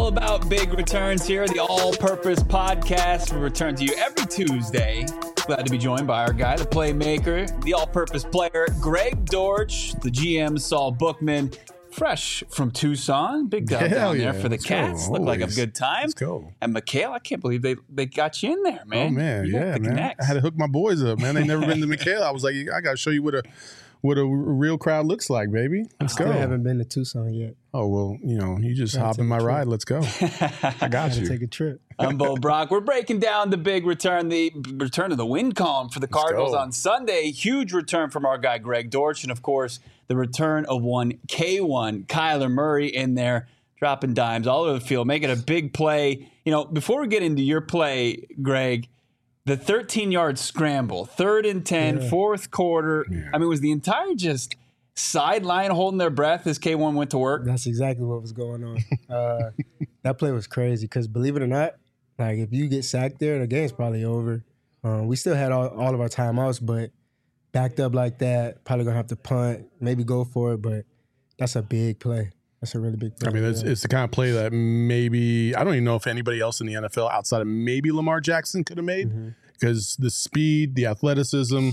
all about big returns here, the All-Purpose Podcast. We return to you every Tuesday. Glad to be joined by our guy, the playmaker, the all-purpose player, Greg Dortch, the GM, Saul Bookman, fresh from Tucson. Big down there for the Cats. Looked like a good time. Let's go. And McHale, I can't believe they got you in there, man. Oh, man, You got yeah, the man. connects. I had to hook my boys up, man. They never been to McHale. I was like, I got to show you what a real crowd looks like, baby. Let's go. I haven't been to Tucson yet. Oh, well, you just hop in my ride. Let's go. I got you. Take a trip. I'm Bo Brock. We're breaking down the big return, the return of the win column for the Cardinals go. on Sunday. Huge return from our guy, Greg Dortch. And, of course, the return of one K1, Kyler Murray in there, dropping dimes all over the field, making a big play. Before we get into your play, Greg, the 13-yard scramble, 3rd and 10, fourth quarter. Yeah. I mean, was the entire just sideline holding their breath as K1 went to work? That's exactly what was going on. That play was crazy because, believe it or not, like if you get sacked there, the game's probably over. We still had all of our timeouts, but backed up like that, probably going to have to punt, maybe go for it, but that's a big play. That's a really big play. I mean, it's the kind of play that maybe, I don't even know if anybody else in the NFL outside of maybe Lamar Jackson could have made, because the speed, the athleticism,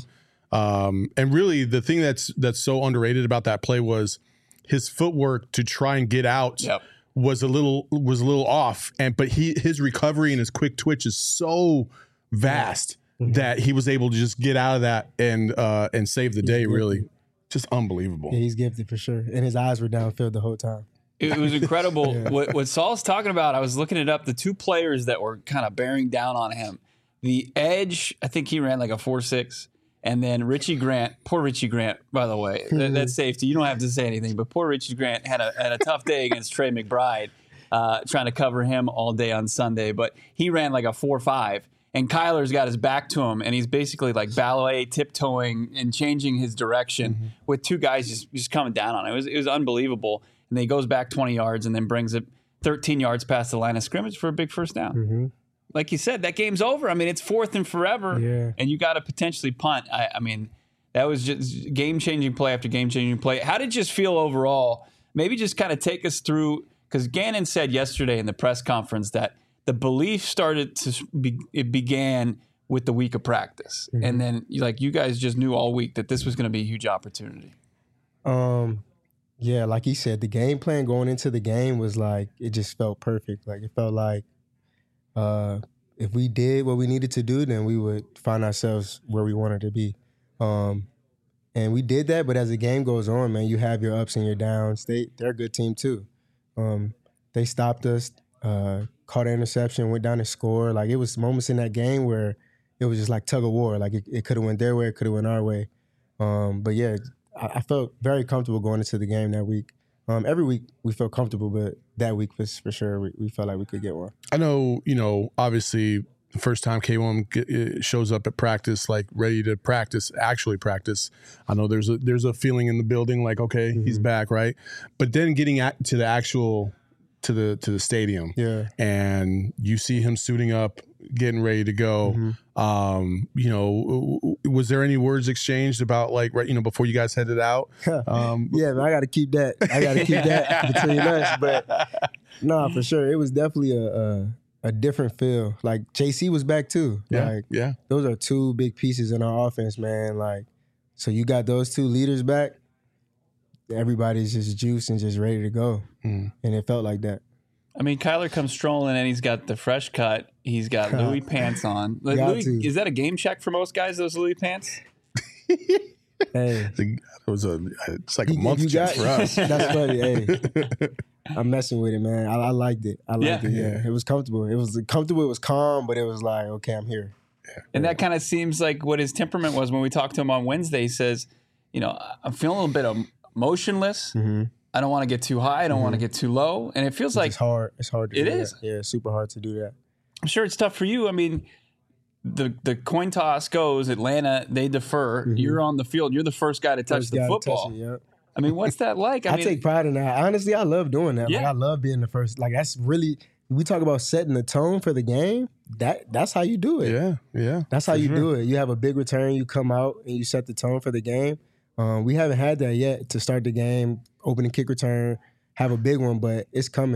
and really the thing that's so underrated about that play was his footwork to try and get out was a little off, but his recovery and his quick twitch is so vast that he was able to just get out of that and save the day. Really, just unbelievable. Yeah, he's gifted for sure, and his eyes were downfield the whole time. It was incredible. What Saul's talking about, I was looking it up, the two players that were kind of bearing down on him. The edge, I think he ran like a 4.6. And then Richie Grant, poor Richie Grant, by the way, that's safety. You don't have to say anything, but poor Richie Grant had a tough day against Trey McBride, trying to cover him all day on Sunday. But he ran like a 4.5, and Kyler's got his back to him, and he's basically like ballet, tiptoeing and changing his direction with two guys just coming down on him. It was unbelievable. And then he goes back 20 yards and then brings it 13 yards past the line of scrimmage for a big first down. Like you said, that game's over. I mean, it's 4th and forever, and you got to potentially punt. I mean, that was just game-changing play after game-changing play. How did it just feel overall? Maybe just kind of take us through, because Gannon said yesterday in the press conference that the belief it began with the week of practice, and then you guys just knew all week that this was going to be a huge opportunity. Yeah, like he said, the game plan going into the game was like, it just felt perfect. Like it felt like, if we did what we needed to do, then we would find ourselves where we wanted to be. And we did that, but as the game goes on, man, you have your ups and your downs. They're a good team too. They stopped us, caught an interception, went down and scored. Like it was moments in that game where it was just like tug of war. Like it could have went their way, it could have went our way. But yeah, I felt very comfortable going into the game that week. Every week we felt comfortable, but that week was for sure we felt like we could get one. I know, obviously the first time K1 shows up at practice, like ready to actually practice. I know there's a feeling in the building like, okay, he's back, right? But then getting to the actual to the stadium, and you see him suiting up, getting ready to go. Was there any words exchanged about before you guys headed out? Yeah, man, I got to keep that. Between us. But no, for sure, it was definitely a different feel. Like JC was back too. Those are two big pieces in our offense, man. Like, so you got those two leaders back. Everybody's just juiced and just ready to go, and it felt like that. I mean, Kyler comes strolling and he's got the fresh cut. He's got Louis pants on. Is that a game check for most guys, those Louis pants? Hey, it's like a month check for us. That's funny. Hey, I'm messing with it, man. I liked it. It was comfortable. It was comfortable. It was calm, but it was like, okay, I'm here. And that kind of seems like what his temperament was when we talked to him on Wednesday. He says, I'm feeling a little bit emotionless. I don't want to get too high. I don't want to get too low. And it feels like it's hard. It's hard to do that. Yeah, it's super hard to do that. I'm sure it's tough for you. I mean, the coin toss goes, Atlanta, they defer. You're on the field. You're the first guy to touch the football. I mean, what's that like? I take pride in that. Honestly, I love doing that. Like, I love being the first. Like, that's really, we talk about setting the tone for the game. That's how you do it. Yeah. That's how you do it. You have a big return. You come out and you set the tone for the game. We haven't had that yet to start the game, opening kick return, have a big one, but it's coming.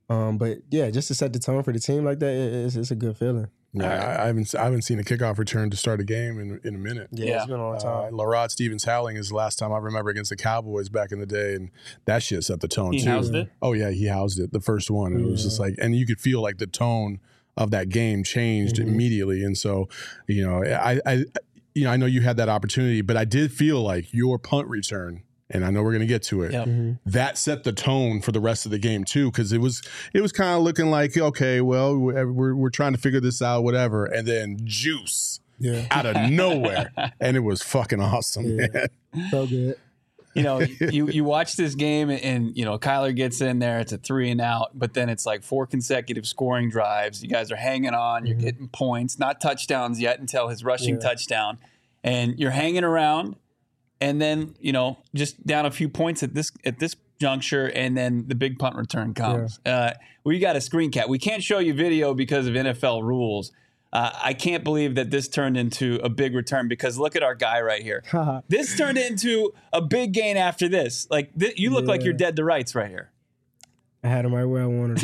But yeah, just to set the tone for the team like that, it's a good feeling. Yeah, I haven't seen a kickoff return to start a game in a minute. Yeah, it's been a long time. Larod Stevens Howling is the last time I remember against the Cowboys back in the day, and that shit set the tone too. He housed it? Oh yeah, he housed it the first one, and it was just like, and you could feel like the tone of that game changed immediately. And so, I know you had that opportunity, but I did feel like your punt return, and I know we're going to get to it. Yep. That set the tone for the rest of the game too, because it was kind of looking like, okay, well, we're trying to figure this out, whatever, and then juice out of nowhere, and it was fucking awesome, man. So good. You watch this game and Kyler gets in there. It's a 3 and out, but then it's like 4 consecutive scoring drives. You guys are hanging on. You're getting points, not touchdowns yet until his rushing touchdown, and you're hanging around. And then just down a few points at this juncture, and then the big punt return comes. We got a screen cap. We can't show you video because of NFL rules. I can't believe that this turned into a big return, because look at our guy right here. This turned into a big gain after this. Like you look like you're dead to rights right here. I had him right where I wanted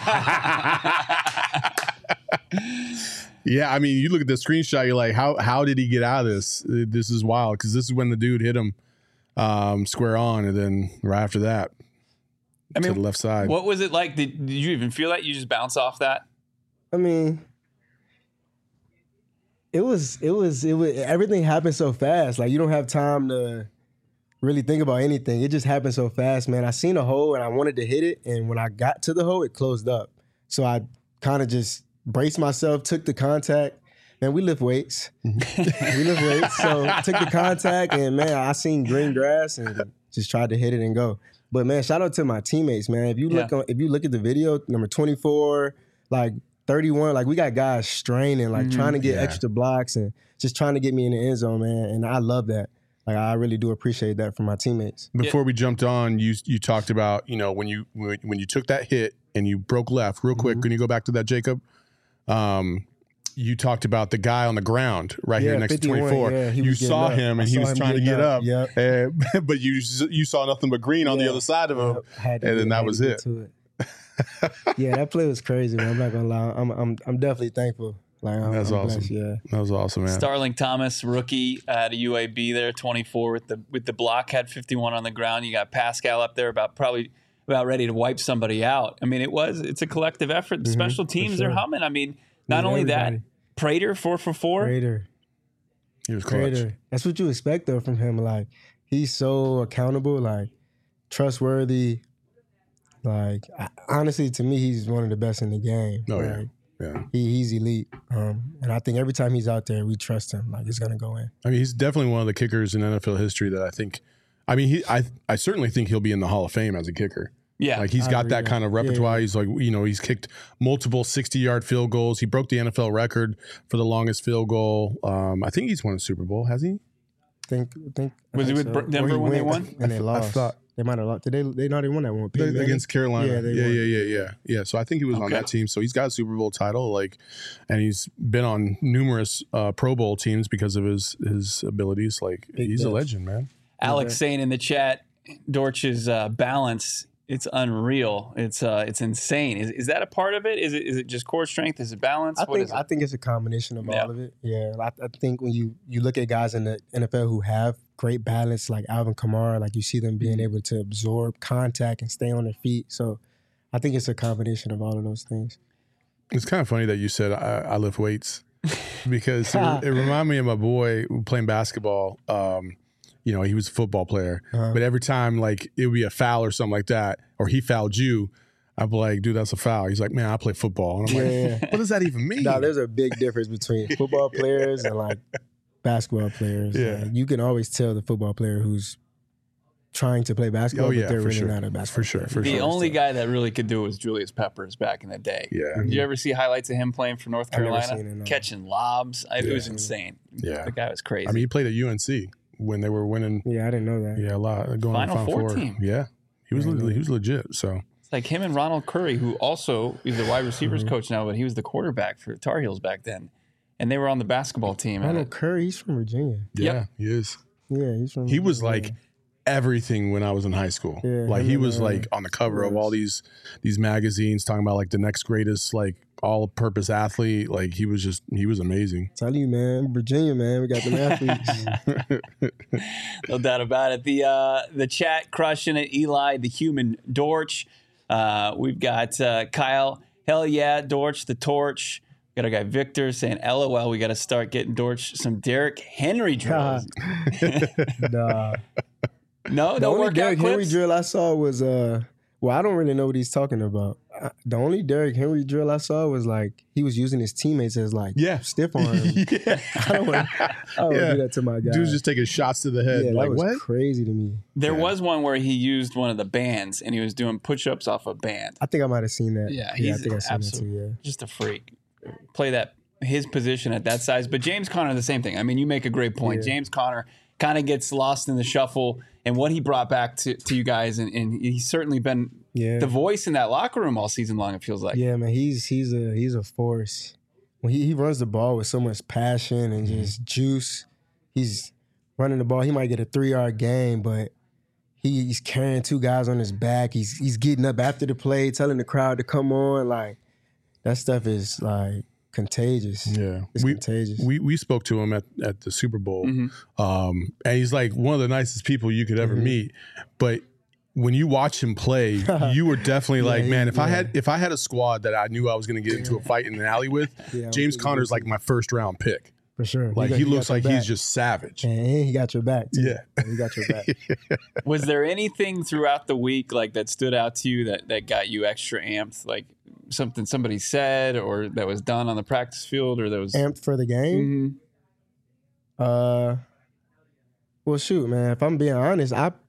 him. Yeah, I mean, you look at the screenshot, you're like, how did he get out of this? This is wild, because this is when the dude hit him square on, and then right after that, to the left side. What was it like? Did you even feel that? You just bounce off that? I mean, it was everything happened so fast. Like, you don't have time to really think about anything. It just happened so fast, man. I seen a hole and I wanted to hit it, and when I got to the hole, it closed up. So I kind of just braced myself, took the contact. Man, we lift weights. So took the contact, and man, I seen green grass and just tried to hit it and go. But man, shout out to my teammates, man. If you look at the video, number 24, like 31, like we got guys straining, like trying to get extra blocks and just trying to get me in the end zone, man. And I love that. Like, I really do appreciate that from my teammates. Before we jumped on, you talked about, when you took that hit and you broke left real quick. Can you go back to that, Jacob? You talked about the guy on the ground right here next to 24. Yeah, you saw him, and he was trying to get up. But you saw nothing but green on the other side of him, and then that was it. Yeah, that play was crazy, man. I'm not gonna lie. I'm definitely thankful. Like, That's awesome. Blessed, that was awesome, man. Starling Thomas, rookie at a UAB there, 24 with the block, had 51 on the ground. You got Pascal up there about ready to wipe somebody out. I mean, it's a collective effort. The special teams are humming. I mean, not only that, Prater 4 for 4. Prater. He was clutch. That's what you expect though from him. Like, he's so accountable, like trustworthy. Like, honestly, to me, he's one of the best in the game. Oh, like, yeah. He's elite. And I think every time he's out there, we trust him. Like, it's gonna go in. I mean, he's definitely one of the kickers in NFL history that I think. I mean, I certainly think he'll be in the Hall of Fame as a kicker. Yeah, like he's got that kind of repertoire. He's like, he's kicked multiple 60-yard field goals. He broke the NFL record for the longest field goal. I think he's won a Super Bowl. Has he? Was he with Denver when they won? And they lost. I thought they might have lost. Did they not even won that one? Against Carolina. Yeah, Yeah. So I think he was on that team. So he's got a Super Bowl title, and he's been on numerous Pro Bowl teams because of his abilities. Like, he's a legend, man. Alex saying in the chat, Dortch's balance, it's unreal. It's insane. Is that a part of it? Is it just core strength? Is it balance? I think it's a combination of all of it. Yeah, I think when you look at guys in the NFL who have great balance, like Alvin Kamara, like you see them being able to absorb contact and stay on their feet. So I think it's a combination of all of those things. It's kind of funny that you said I lift weights, because it reminded me of my boy playing basketball. He was a football player, but every time like it would be a foul or something like that, or he fouled you, I'd be like, dude, that's a foul. He's like, man, I play football. And I'm like, what does that even mean? No, there's a big difference between football players and like basketball players. Yeah. You can always tell the football player who's trying to play basketball, but they're really not a basketball player. The only guy that really could do it was Julius Peppers back in the day. Yeah. Did you ever see highlights of him playing for North Carolina? Catching lobs. It was insane. Yeah. The guy was crazy. I mean, he played at UNC when they were winning. Yeah, I didn't know that. Yeah, a lot. Going Final on Four team. Yeah. He was legit. So it's like him and Ronald Curry, who also is the wide receivers coach now, but he was the quarterback for Tar Heels back then. And they were on the basketball team. Ronald Curry, he's from Virginia. Yeah, he is. Yeah, he's from He was like everything when I was in high school. Yeah, like he was like on the cover of all these magazines talking about like the next greatest like all-purpose athlete. Like he was amazing. Tell you, man, Virginia, man, we got them athletes. No doubt about it. The chat crushing it. Eli, the human Dortch. We've got Kyle. Hell yeah, Dortch, the torch. Got our guy Victor saying, LOL, we got to start getting Dortch some Derrick Henry drills. Nah. No, The only workout Derrick Henry clips? drill I saw was well, I don't really know what he's talking about. The only Derrick Henry drill I saw was like he was using his teammates as like stiff arm. Yeah. I don't want to do that to my guy. Dude's just taking shots to the head. Yeah, like that was what? crazy to me. There was one where he used one of the bands and he was doing push-ups off a band. I think I might have seen that. Yeah, I he's think I seen that too. Yeah. just a freak. Play that his position at that size. But James Conner, the same thing. I mean, you make a great point. Yeah. James Conner kind of gets lost in the shuffle and what he brought back to you guys. And he's certainly been the voice in that locker room all season long, it feels like. Yeah, man, he's a force. When he runs the ball with so much passion and just juice, he's running the ball. He might get a 3-yard gain, but he's carrying 2 guys on his back. He's getting up after the play, telling the crowd to come on. Like that stuff is like contagious. Yeah, it's contagious. We spoke to him at the Super Bowl, and he's like one of the nicest people you could ever meet. But when you watch him play, you were definitely like, man, if I had a squad that I knew I was going to get into a fight in an alley with, James Conner's like my first round pick. For sure. Like he looks like he's just savage. And he got your back too. Yeah. He got your back. Was there anything throughout the week like that stood out to you that got you extra amped? Like something somebody said or that was done on the practice field or that was amped for the game? Well, shoot, man. If I'm being honest,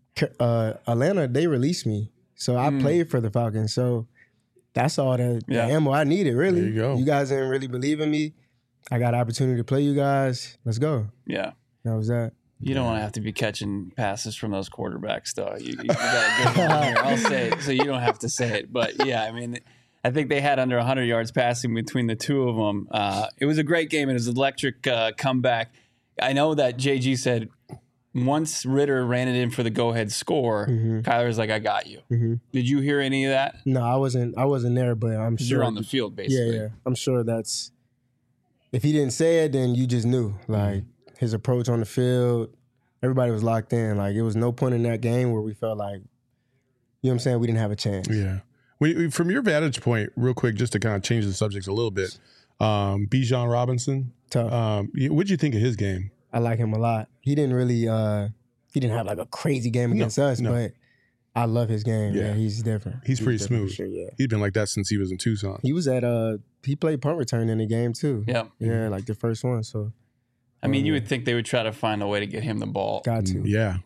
Atlanta, they released me. So I played for the Falcons. So that's all the ammo I needed, really. There you go. You guys didn't really believe in me. I got an opportunity to play you guys. Let's go. Yeah. That was that. You don't want to have to be catching passes from those quarterbacks, though. You got a good one here. I'll say it so you don't have to say it. But, yeah, I mean, I think they had under 100 yards passing between the two of them. It was a great game. It was an electric comeback. I know that JG said once Ritter ran it in for the go-ahead score, Kyler's like, I got you. Did you hear any of that? No, I wasn't there, but I'm sure. You're on the field, basically. Yeah. I'm sure that's – if he didn't say it, then you just knew. Like, his approach on the field, everybody was locked in. Like, it was no point in that game where we felt like, you know what I'm saying, we didn't have a chance. Yeah. From your vantage point, real quick, just to kind of change the subject a little bit, Bijan Robinson, tough. What'd you think of his game? I like him a lot. He didn't really he didn't have like a crazy game against us, but I love his game. Yeah, he's different. He's pretty different smooth. for sure, yeah. He's been like that since he was in Tucson. He was at he played punt return in the game too. Yeah. Yeah, like the first one. So I mean, you would think they would try to find a way to get him the ball. got to. Yeah.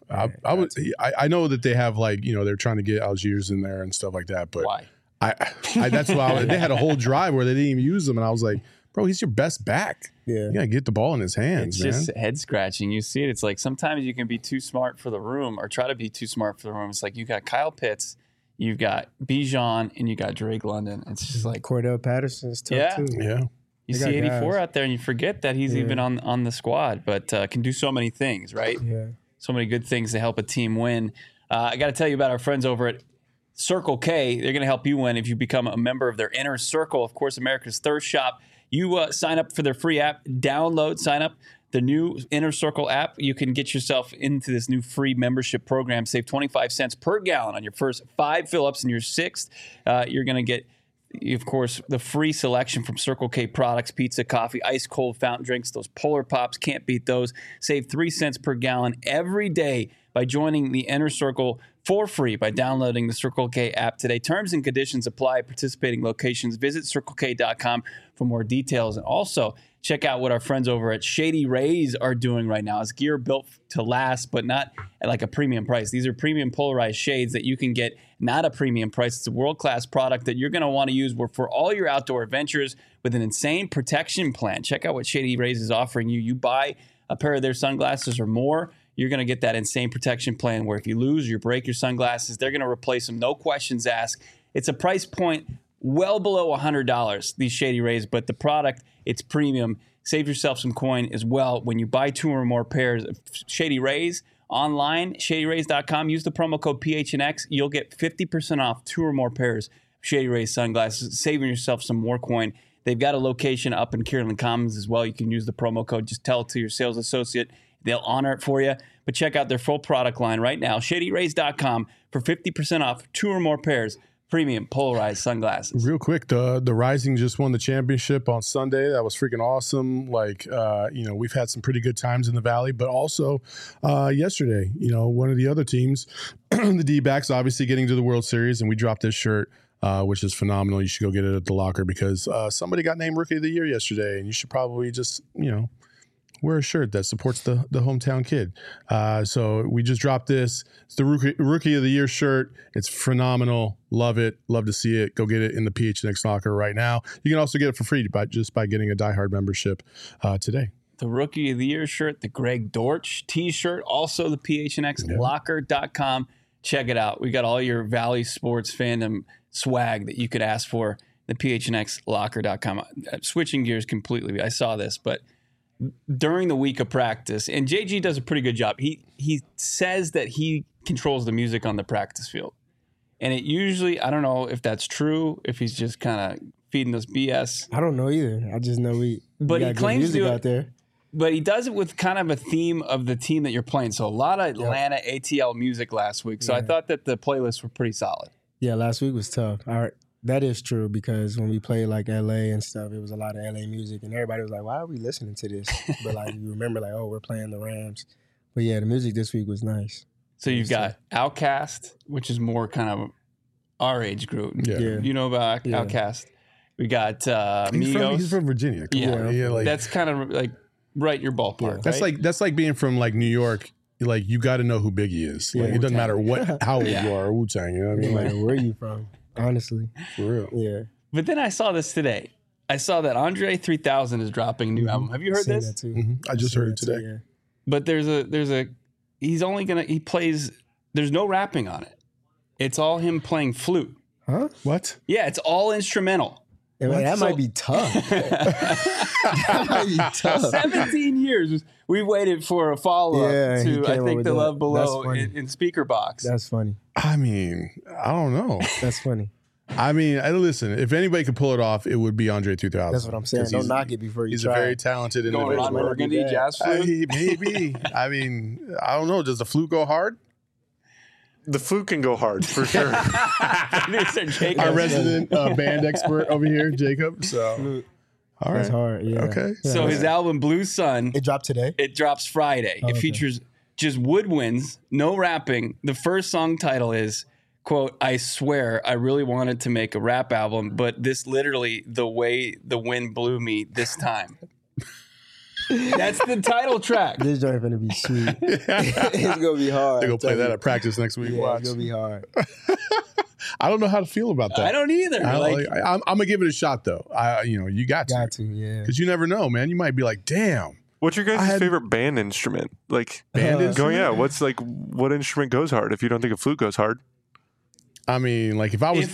I know that they have like, they're trying to get Algiers in there and stuff like that, but Why? That's why they had a whole drive where they didn't even use him, and I was like, bro, he's your best back. Yeah. You gotta get the ball in his hands, It's just head scratching. You see it. It's like sometimes you can be too smart for the room or try to be too smart for the room. It's like you got Kyle Pitts, you've got Bijan, and you got Drake London. It's just like Cordell Patterson's tough too. Yeah. you They see got 84 guys. out there and you forget that he's even on the squad, but can do so many things, right? Yeah. So many good things to help a team win. I got to tell you about our friends over at Circle K. They're going to help you win if you become a member of their Inner Circle, of course, America's thirst shop. You sign up for their free app, sign up the new Inner Circle app. You can get yourself into this new free membership program. Save 25 cents per gallon on your first 5 fill-ups, and your 6th, you're going to get, of course, the free selection from Circle K products, pizza, coffee, ice-cold fountain drinks. Those Polar Pops, can't beat those. Save 3 cents per gallon every day by joining the Inner Circle for free by downloading the Circle K app today. Terms and conditions apply at participating locations. Visit CircleK.com for more details. And also, check out what our friends over at Shady Rays are doing right now. It's gear built to last, but not at like a premium price. These are premium polarized shades that you can get not a premium price. It's a world-class product that you're going to want to use for all your outdoor adventures with an insane protection plan. Check out what Shady Rays is offering you. You buy a pair of their sunglasses or more, you're going to get that insane protection plan where if you lose or you break your sunglasses, they're going to replace them. No questions asked. It's a price point well below $100, these Shady Rays, but the product, it's premium. Save yourself some coin as well when you buy 2 or more pairs of Shady Rays Online, ShadyRays.com. Use the promo code PHNX. You'll get 50% off 2 or more pairs of Shady Rays sunglasses, saving yourself some more coin. They've got a location up in Kierland Commons as well. You can use the promo code. Just tell it to your sales associate. They'll honor it for you. But check out their full product line right now, ShadyRays.com, for 50% off 2 or more pairs premium polarized sunglasses. Real quick, the Rising just won the championship on Sunday. That was freaking awesome. Like, we've had some pretty good times in the Valley, but also yesterday, one of the other teams, the D-backs, obviously getting to the World Series, and we dropped this shirt, which is phenomenal. You should go get it at the locker because somebody got named Rookie of the Year yesterday, and you should probably just, wear a shirt that supports the hometown kid. So we just dropped this. It's the Rookie of the Year shirt. It's phenomenal. Love it. Love to see it. Go get it in the PHNX locker right now. You can also get it for free just by getting a Die Hard membership today. The Rookie of the Year shirt, the Greg Dortch t-shirt, also the PHNXlocker.com. Check it out. We got all your Valley sports fandom swag that you could ask for. The PHNXlocker.com. Switching gears completely. I saw this, but during the week of practice, and JG does a pretty good job. He says that he controls the music on the practice field. And it usually, I don't know if that's true, if he's just kind of feeding us BS. I don't know either. I just know we got he claims music to out there. But he does it with kind of a theme of the team that you're playing. So a lot of Atlanta ATL music last week. So I thought that the playlists were pretty solid. Yeah, last week was tough. That is true because when we played like LA and stuff, it was a lot of LA music and everybody was like, why are we listening to this? But like you remember like, oh, we're playing the Rams. But yeah, the music this week was nice. So you've got Outkast, which is more kind of our age group. Yeah. You know about Outkast. We got Migos. He's from Virginia. Yeah, that's kind of like right in your ballpark. Yeah. That's like being from like New York. Like you got to know who Biggie is. Like it doesn't matter how old you are or Wu-Tang. You know what I mean? Like where are you from? Honestly, for real. Yeah. But then I saw this today. I saw that Andre 3000 is dropping a new album. Have you heard this? That too. I just heard it today. Yeah. But he's plays. There's no rapping on it. It's all him playing flute. Huh? What? Yeah, it's all instrumental. That might be tough. That might be tough. 17 years. We waited for a follow-up to, I think, The Love Below in Speaker Box. That's funny. I mean, I don't know. That's funny. I mean, listen, if anybody could pull it off, it would be Andre 3000. That's what I'm saying. Don't knock it before you He's try. a very talented individual. Ron Burgundy, jazz flute? Maybe. I mean, I don't know. Does the flute go hard? The flute can go hard, for sure. Our resident band expert over here, Jacob. So, all right. That's hard, yeah. Okay. So his album, Blue Sun. It dropped today? It drops Friday. It features just woodwinds, no rapping. The first song title is, quote, I swear I really wanted to make a rap album, but this literally the way the wind blew me this time. That's the title track. This joint gonna be sweet. It's gonna be hard. They're gonna play that at practice next week. Yeah, Watch. it's gonna be hard. I don't know how to feel about that. I don't either. I'm gonna give it a shot though. You got to, yeah. Because you never know, man. You might be like, damn. What's your guys' favorite band instrument? Like band instrument? What's like what instrument goes hard? If you don't think a flute goes hard. I mean, like if I was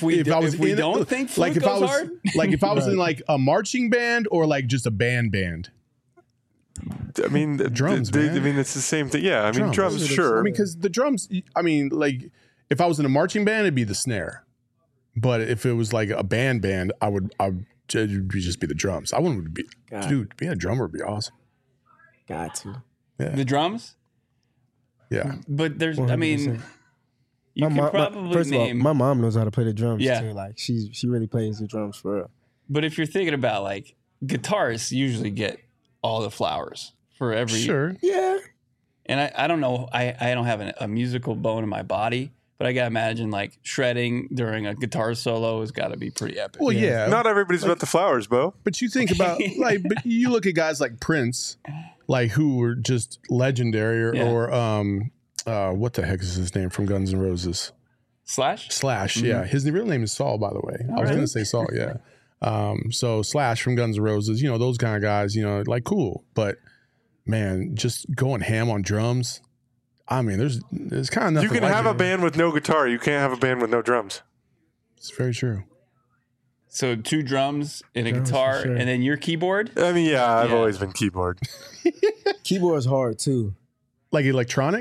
if I was in like a marching band or like just a band. I mean, drums. Man. I mean, it's the same thing. Yeah, I mean, drums, sure. I mean, because the drums. I mean, like if I was in a marching band, it'd be the snare. But if it was like a band, I'd just be the drums. I wouldn't be, dude. Being a drummer would be awesome. Got to. Yeah. The drums. Yeah, but there's. 100%. I mean, you could probably first name. of all, my mom knows how to play the drums. Yeah. too. Like she really plays the drums for real. But if you're thinking about like guitarists, usually get all the flowers for every. Sure. Yeah. And I don't know. I don't have a musical bone in my body, but I gotta imagine like shredding during a guitar solo has got to be pretty epic. Well, yeah. Not everybody's about the flowers, Bo. But you think about but you look at guys like Prince, like who were just legendary, or what the heck is his name from Guns N' Roses? Slash. Mm-hmm. Yeah. His real name is Saul, by the way. I was going to say Saul, yeah. So Slash from Guns N' Roses, those kind of guys, like cool. But man, just going ham on drums. I mean, there's kind of nothing. You can have a band with no guitar. You can't have a band with no drums. It's very true. So 2 drums and a guitar, sure. and then your keyboard. I mean, I've always been keyboard. Keyboard's hard too. Like electronic?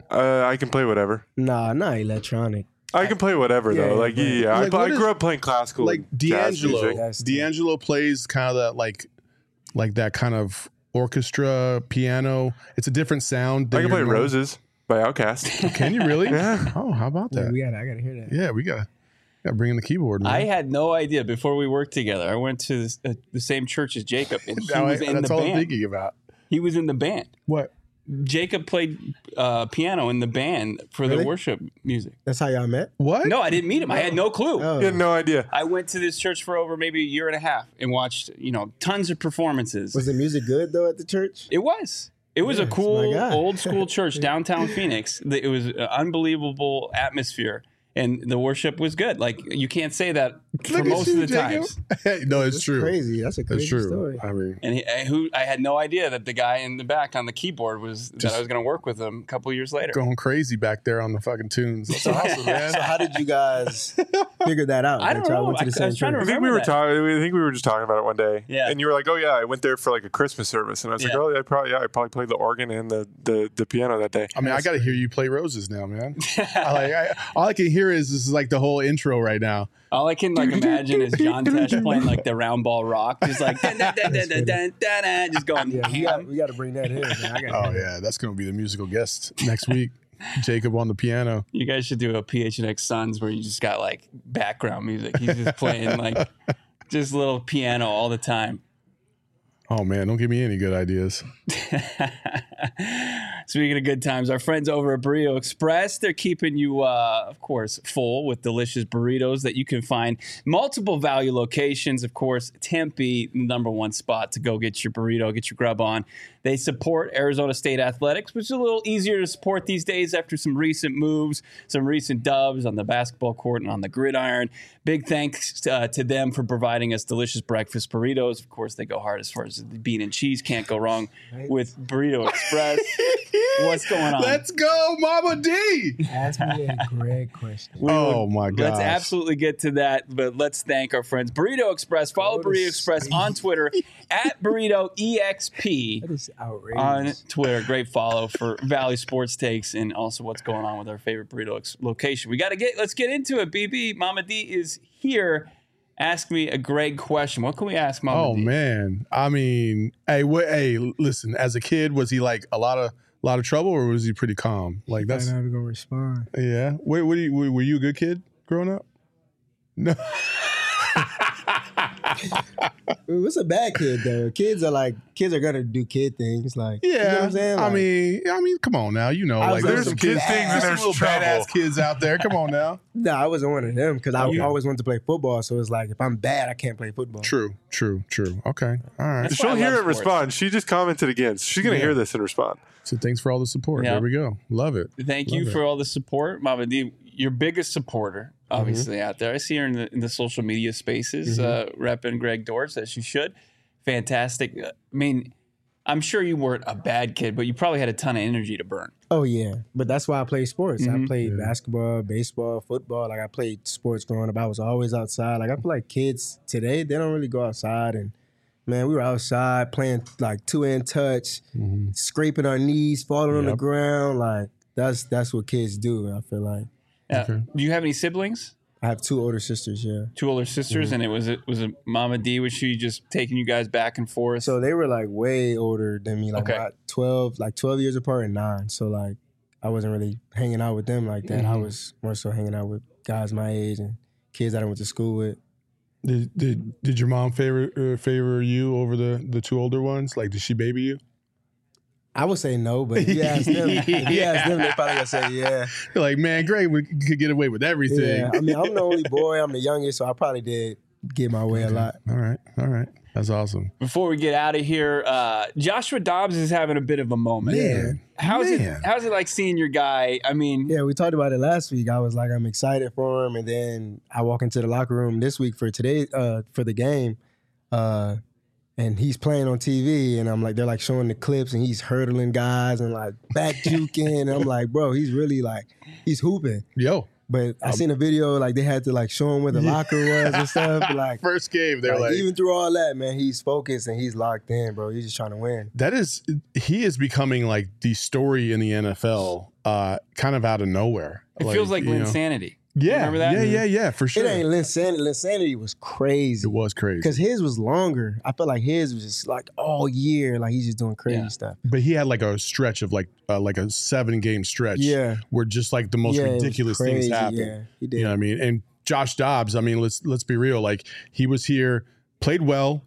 I can play whatever. Nah, not electronic. I can play whatever though. Yeah, Like but- yeah, Like, I what is- grew up playing classical, Like and jazz music. D'Angelo. That's- D'Angelo plays kind of that like that kind of orchestra piano. It's a different sound. I than can play your normal- Roses by Outkast. Can you really? Yeah. Oh, how about that? I gotta hear that. Yeah, we gotta bring in the keyboard, man. I had no idea before we worked together. I went to the same church as Jacob, and he Now was in that's the all I'm band. thinking about. He was in the band. What? Jacob played piano in the band for the Really? worship music. That's how y'all met? What? No, I didn't meet him. I had no clue. Oh. You had no idea. I went to this church for over maybe a year and a half and watched, tons of performances. Was the music good though at the church? It was. It was a my cool God. old school church downtown Phoenix. It was an unbelievable atmosphere, and the worship was good. Like you can't say that for Look at most you, of the Jacob. times. No, it's That's true. crazy. That's a That's crazy true. story. I mean, And I had no idea that the guy in the back on the keyboard that I was going to work with him a couple years later. going crazy back there on the fucking tunes. That's awesome, man. So how did you guys figure that out? I don't That y'all know. went to the I same was trying to church? I think we remember were that. talking. I think we were just talking about it one day. Yeah. And you were like, "Oh yeah, I went there for like a Christmas service," and I was like, Yeah. "Oh, I probably played the organ and the piano that day." I mean, I got to hear you play Roses now, man. All I can hear is this is like the whole intro right now. All I can imagine is John Tesh playing like the round ball rock, just like dun, dun, dun, dun, dun, dun, dun, dun, just going Yeah, ham. we got to bring that in. Man. I gotta Oh yeah, that's going to be the musical guest next week. Jacob on the piano. You guys should do a PHNX Suns where you just got like background music. He's just playing like just little piano all the time. Oh man, don't give me any good ideas. Speaking of good times, our friends over at Burrito Express, they're keeping you, of course, full with delicious burritos that you can find multiple value locations. Of course, Tempe, number one spot to go get your burrito, get your grub on. They support Arizona State Athletics, which is a little easier to support these days after some recent moves, some recent dubs on the basketball court and on the gridiron. Big thanks to them for providing us delicious breakfast burritos. Of course, they go hard as far as the bean and cheese. Can't go wrong with Burrito Express. What's going on? Let's go, Mama D. Ask me a great question. Oh my god. Let's absolutely get to that, but let's thank our friends Burrito Express. Follow What a Burrito Express on Twitter at Burrito EXP That is outrageous. on Twitter. Great follow for Valley Sports Takes and also what's going on with our favorite burrito location. Let's get into it. BB, Mama D is here. Ask me a great question. What can we ask Mama Oh D? man. I mean, hey, listen, as a kid, was he like a lot of trouble or was he pretty calm? Like I'm that's not even gonna respond. yeah. Were you a good kid growing up? No. What's a bad kid though? Kids are gonna do kid things. Like you know what Yeah, I'm saying? I mean, come on now. You know, I like was there's on some some kids, bad- there's some there's little trouble. badass kids out there. Come on now. No, I wasn't one of them because I always wanted to play football. So it's like if I'm bad, I can't play football. True. Okay, all right. That's why She'll I hear love it and sports. respond. She just commented again. So she's gonna hear this and respond. So thanks for all the support. Yeah. There we go. Love it. Thank you Love for all the support, Mama D. Your biggest supporter, obviously, out there. I see her in the social media spaces, repping Greg Dortz, as she should. Fantastic. I mean, I'm sure you weren't a bad kid, but you probably had a ton of energy to burn. Oh yeah, but that's why I played sports. Mhm. I played basketball, baseball, football. Like I played sports growing up. I was always outside. Like I feel like kids today, they don't really go outside. And man, we were outside playing like 2-hand touch, scraping our knees, falling on the Yep. ground. Like that's what kids do. I feel like Okay. Do you have any siblings? I have 2 older sisters. Yeah. 2 older sisters, and it was Mama D. Was she just taking you guys back and forth? So they were like way older than me, like Okay. about 12 years apart and 9. So like I wasn't really hanging out with them like that. I was more so hanging out with guys my age and kids that I went to school with. Did your mom favor you over the 2 older ones? Like, did she baby you? I would say no, but if you ask them, they're probably gonna say yeah. You're like, man, Greg could get away with everything. Yeah, I mean, I'm the only boy. I'm the youngest, so I probably did get my way a lot. All right. That's awesome. Before we get out of here, Joshua Dobbs is having a bit of a moment. Man. How's it like seeing your guy? I mean, Yeah, we talked about it last week. I was like, I'm excited for him, and then I walk into the locker room this week for today for the game, and he's playing on TV, and I'm like, they're like showing the clips, and he's hurdling guys and like back juking, and I'm like, bro, he's really like, he's hooping. Yo. But I seen a video like they had to like show him where the locker was and stuff. But, like First game, they're like, even through all that, man, he's focused and he's locked in, bro. He's just trying to win. he is becoming like the story in the NFL, kind of out of nowhere. It feels like Linsanity. Yeah, Remember that? Yeah, for sure. It ain't Linsanity. Linsanity was crazy. It was crazy because his was longer. I felt like his was just like all year, like he's just doing crazy stuff. But he had like a stretch of like a 7-game stretch, where just like the most ridiculous things happened. Yeah, he did. You know what I mean? And Josh Dobbs, I mean, let's be real. Like he was here, played well,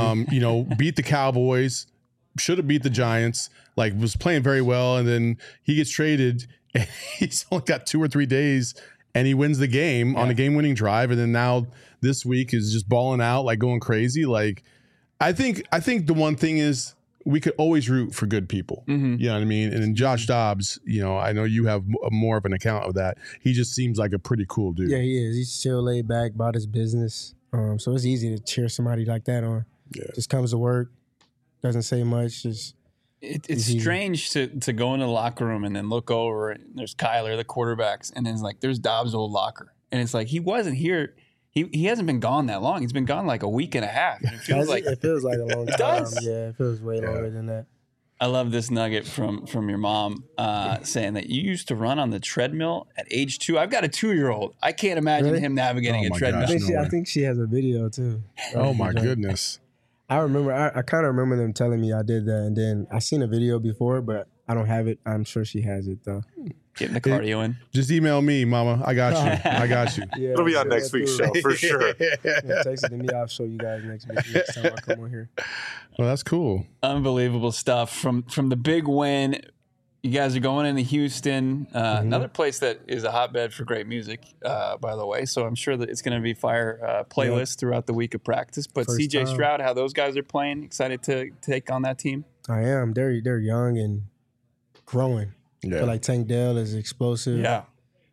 beat the Cowboys, should have beat the Giants, like was playing very well, and then he gets traded, and he's only got 2 or 3 days. And he wins the game on a game-winning drive, and then now this week is just balling out, like going crazy. Like, I think the one thing is we could always root for good people. Mm-hmm. You know what I mean? And then Josh Dobbs, I know you have more of an account of that. He just seems like a pretty cool dude. Yeah, he is. He's chill, laid back, about his business. So it's easy to cheer somebody like that on. Yeah. Just comes to work, doesn't say much, just. It's strange to go into the locker room and then look over and there's Kyler, the quarterbacks, and then it's like there's Dobbs' old locker. And it's like he wasn't here. He hasn't been gone that long. He's been gone like a week and a half. And it feels like a long time. It does. Yeah, it feels way longer than that. I love this nugget from your mom saying that you used to run on the treadmill at age 2. I've got a 2-year-old. I can't imagine him navigating a treadmill. Gosh. I think she has a video too. Oh my goodness. I remember. I kind of remember them telling me I did that, and then I seen a video before, but I don't have it. I'm sure she has it though. Getting the cardio in. Just email me, Mama. I got you. I got you. Yeah, It'll be on next week's show for sure. Text it to me. I'll show you guys next week. Next time I come on here. Well, that's cool. Unbelievable stuff from the big win. You guys are going into Houston, another place that is a hotbed for great music, by the way. So I'm sure that it's going to be fire playlist throughout the week of practice. But First CJ time. Stroud, how those guys are playing, excited to take on that team? I am. They're young and growing. Yeah. I feel like Tank Dell is explosive. Yeah.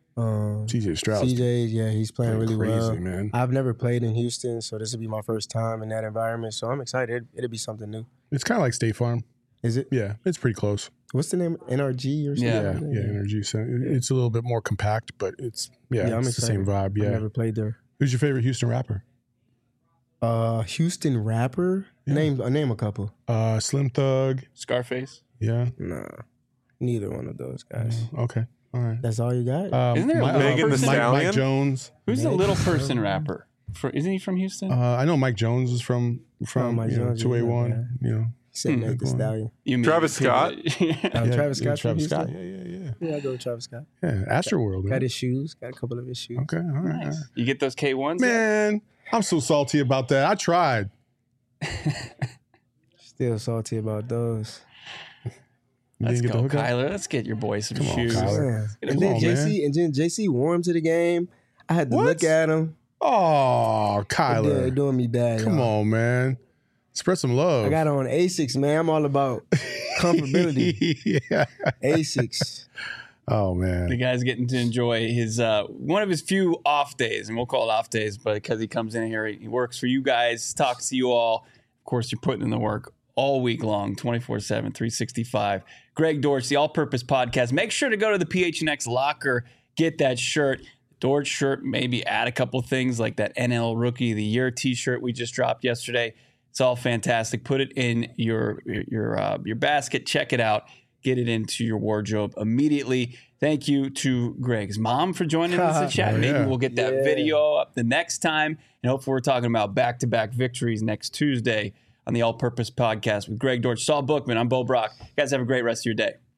CJ Stroud. CJ, he's playing really crazy, well. man. I've never played in Houston, so this will be my first time in that environment. So I'm excited. It'll be something new. It's kind of like State Farm. Is it? Yeah, it's pretty close. What's the name? NRG or something? Yeah, Energy. So it's a little bit more compact, but it's I'm it's the same excited. vibe. Yeah. I've never played there. Who's your favorite Houston rapper? Houston rapper? Yeah. Name a couple. Slim Thug. Scarface. Yeah. Nah, neither one of those guys. Okay. All right. That's all you got? Isn't there a little Megan Thee person? Mike Stallion? Jones. Who's the little person rapper? Isn't he from Houston? I know Mike Jones is from Mike Jones, 281. You know. He said Meg Thee Stallion. You mean Travis people Scott? that- Travis Scott. Travis from Scott. Houston? Yeah. Yeah, I go with Travis Scott. Yeah. Astroworld. Got Man. his shoes. Got a couple of his shoes. Okay. All right. All Nice. right. You get those K1s? Man, I'm so salty about that. I tried. Still salty about those. You Let's didn't get go, the hookup? Kyler. Let's get your boy some Come on, shoes. Kyler. Yeah. Come on, And then JC wore him to the game. I had to What? look at him. Oh, They're Kyler. doing me bad. Come y'all. on, man. Spread some love. I got on Asics, man. I'm all about comfortability. Yeah. Asics. Oh, The man. guy's getting to enjoy his one of his few off days, and we'll call it off days, but because he comes in here, he works for you guys, talks to you all. Of course, you're putting in the work all week long, 24/7, 365. Greg Dortch, the All-Purpose Podcast. Make sure to go to the PHNX locker, get that shirt. Dortch shirt, maybe add a couple things like that NL Rookie of the Year T-shirt we just dropped yesterday. It's all fantastic. Put it in your basket. Check it out. Get it into your wardrobe immediately. Thank you to Greg's mom for joining us to chat. Oh, Maybe yeah. we'll get that video up the next time. And hopefully we're talking about back-to-back victories next Tuesday on the All-Purpose Podcast with Greg Dortch, Saul Bookman. I'm Bo Brock. You guys have a great rest of your day.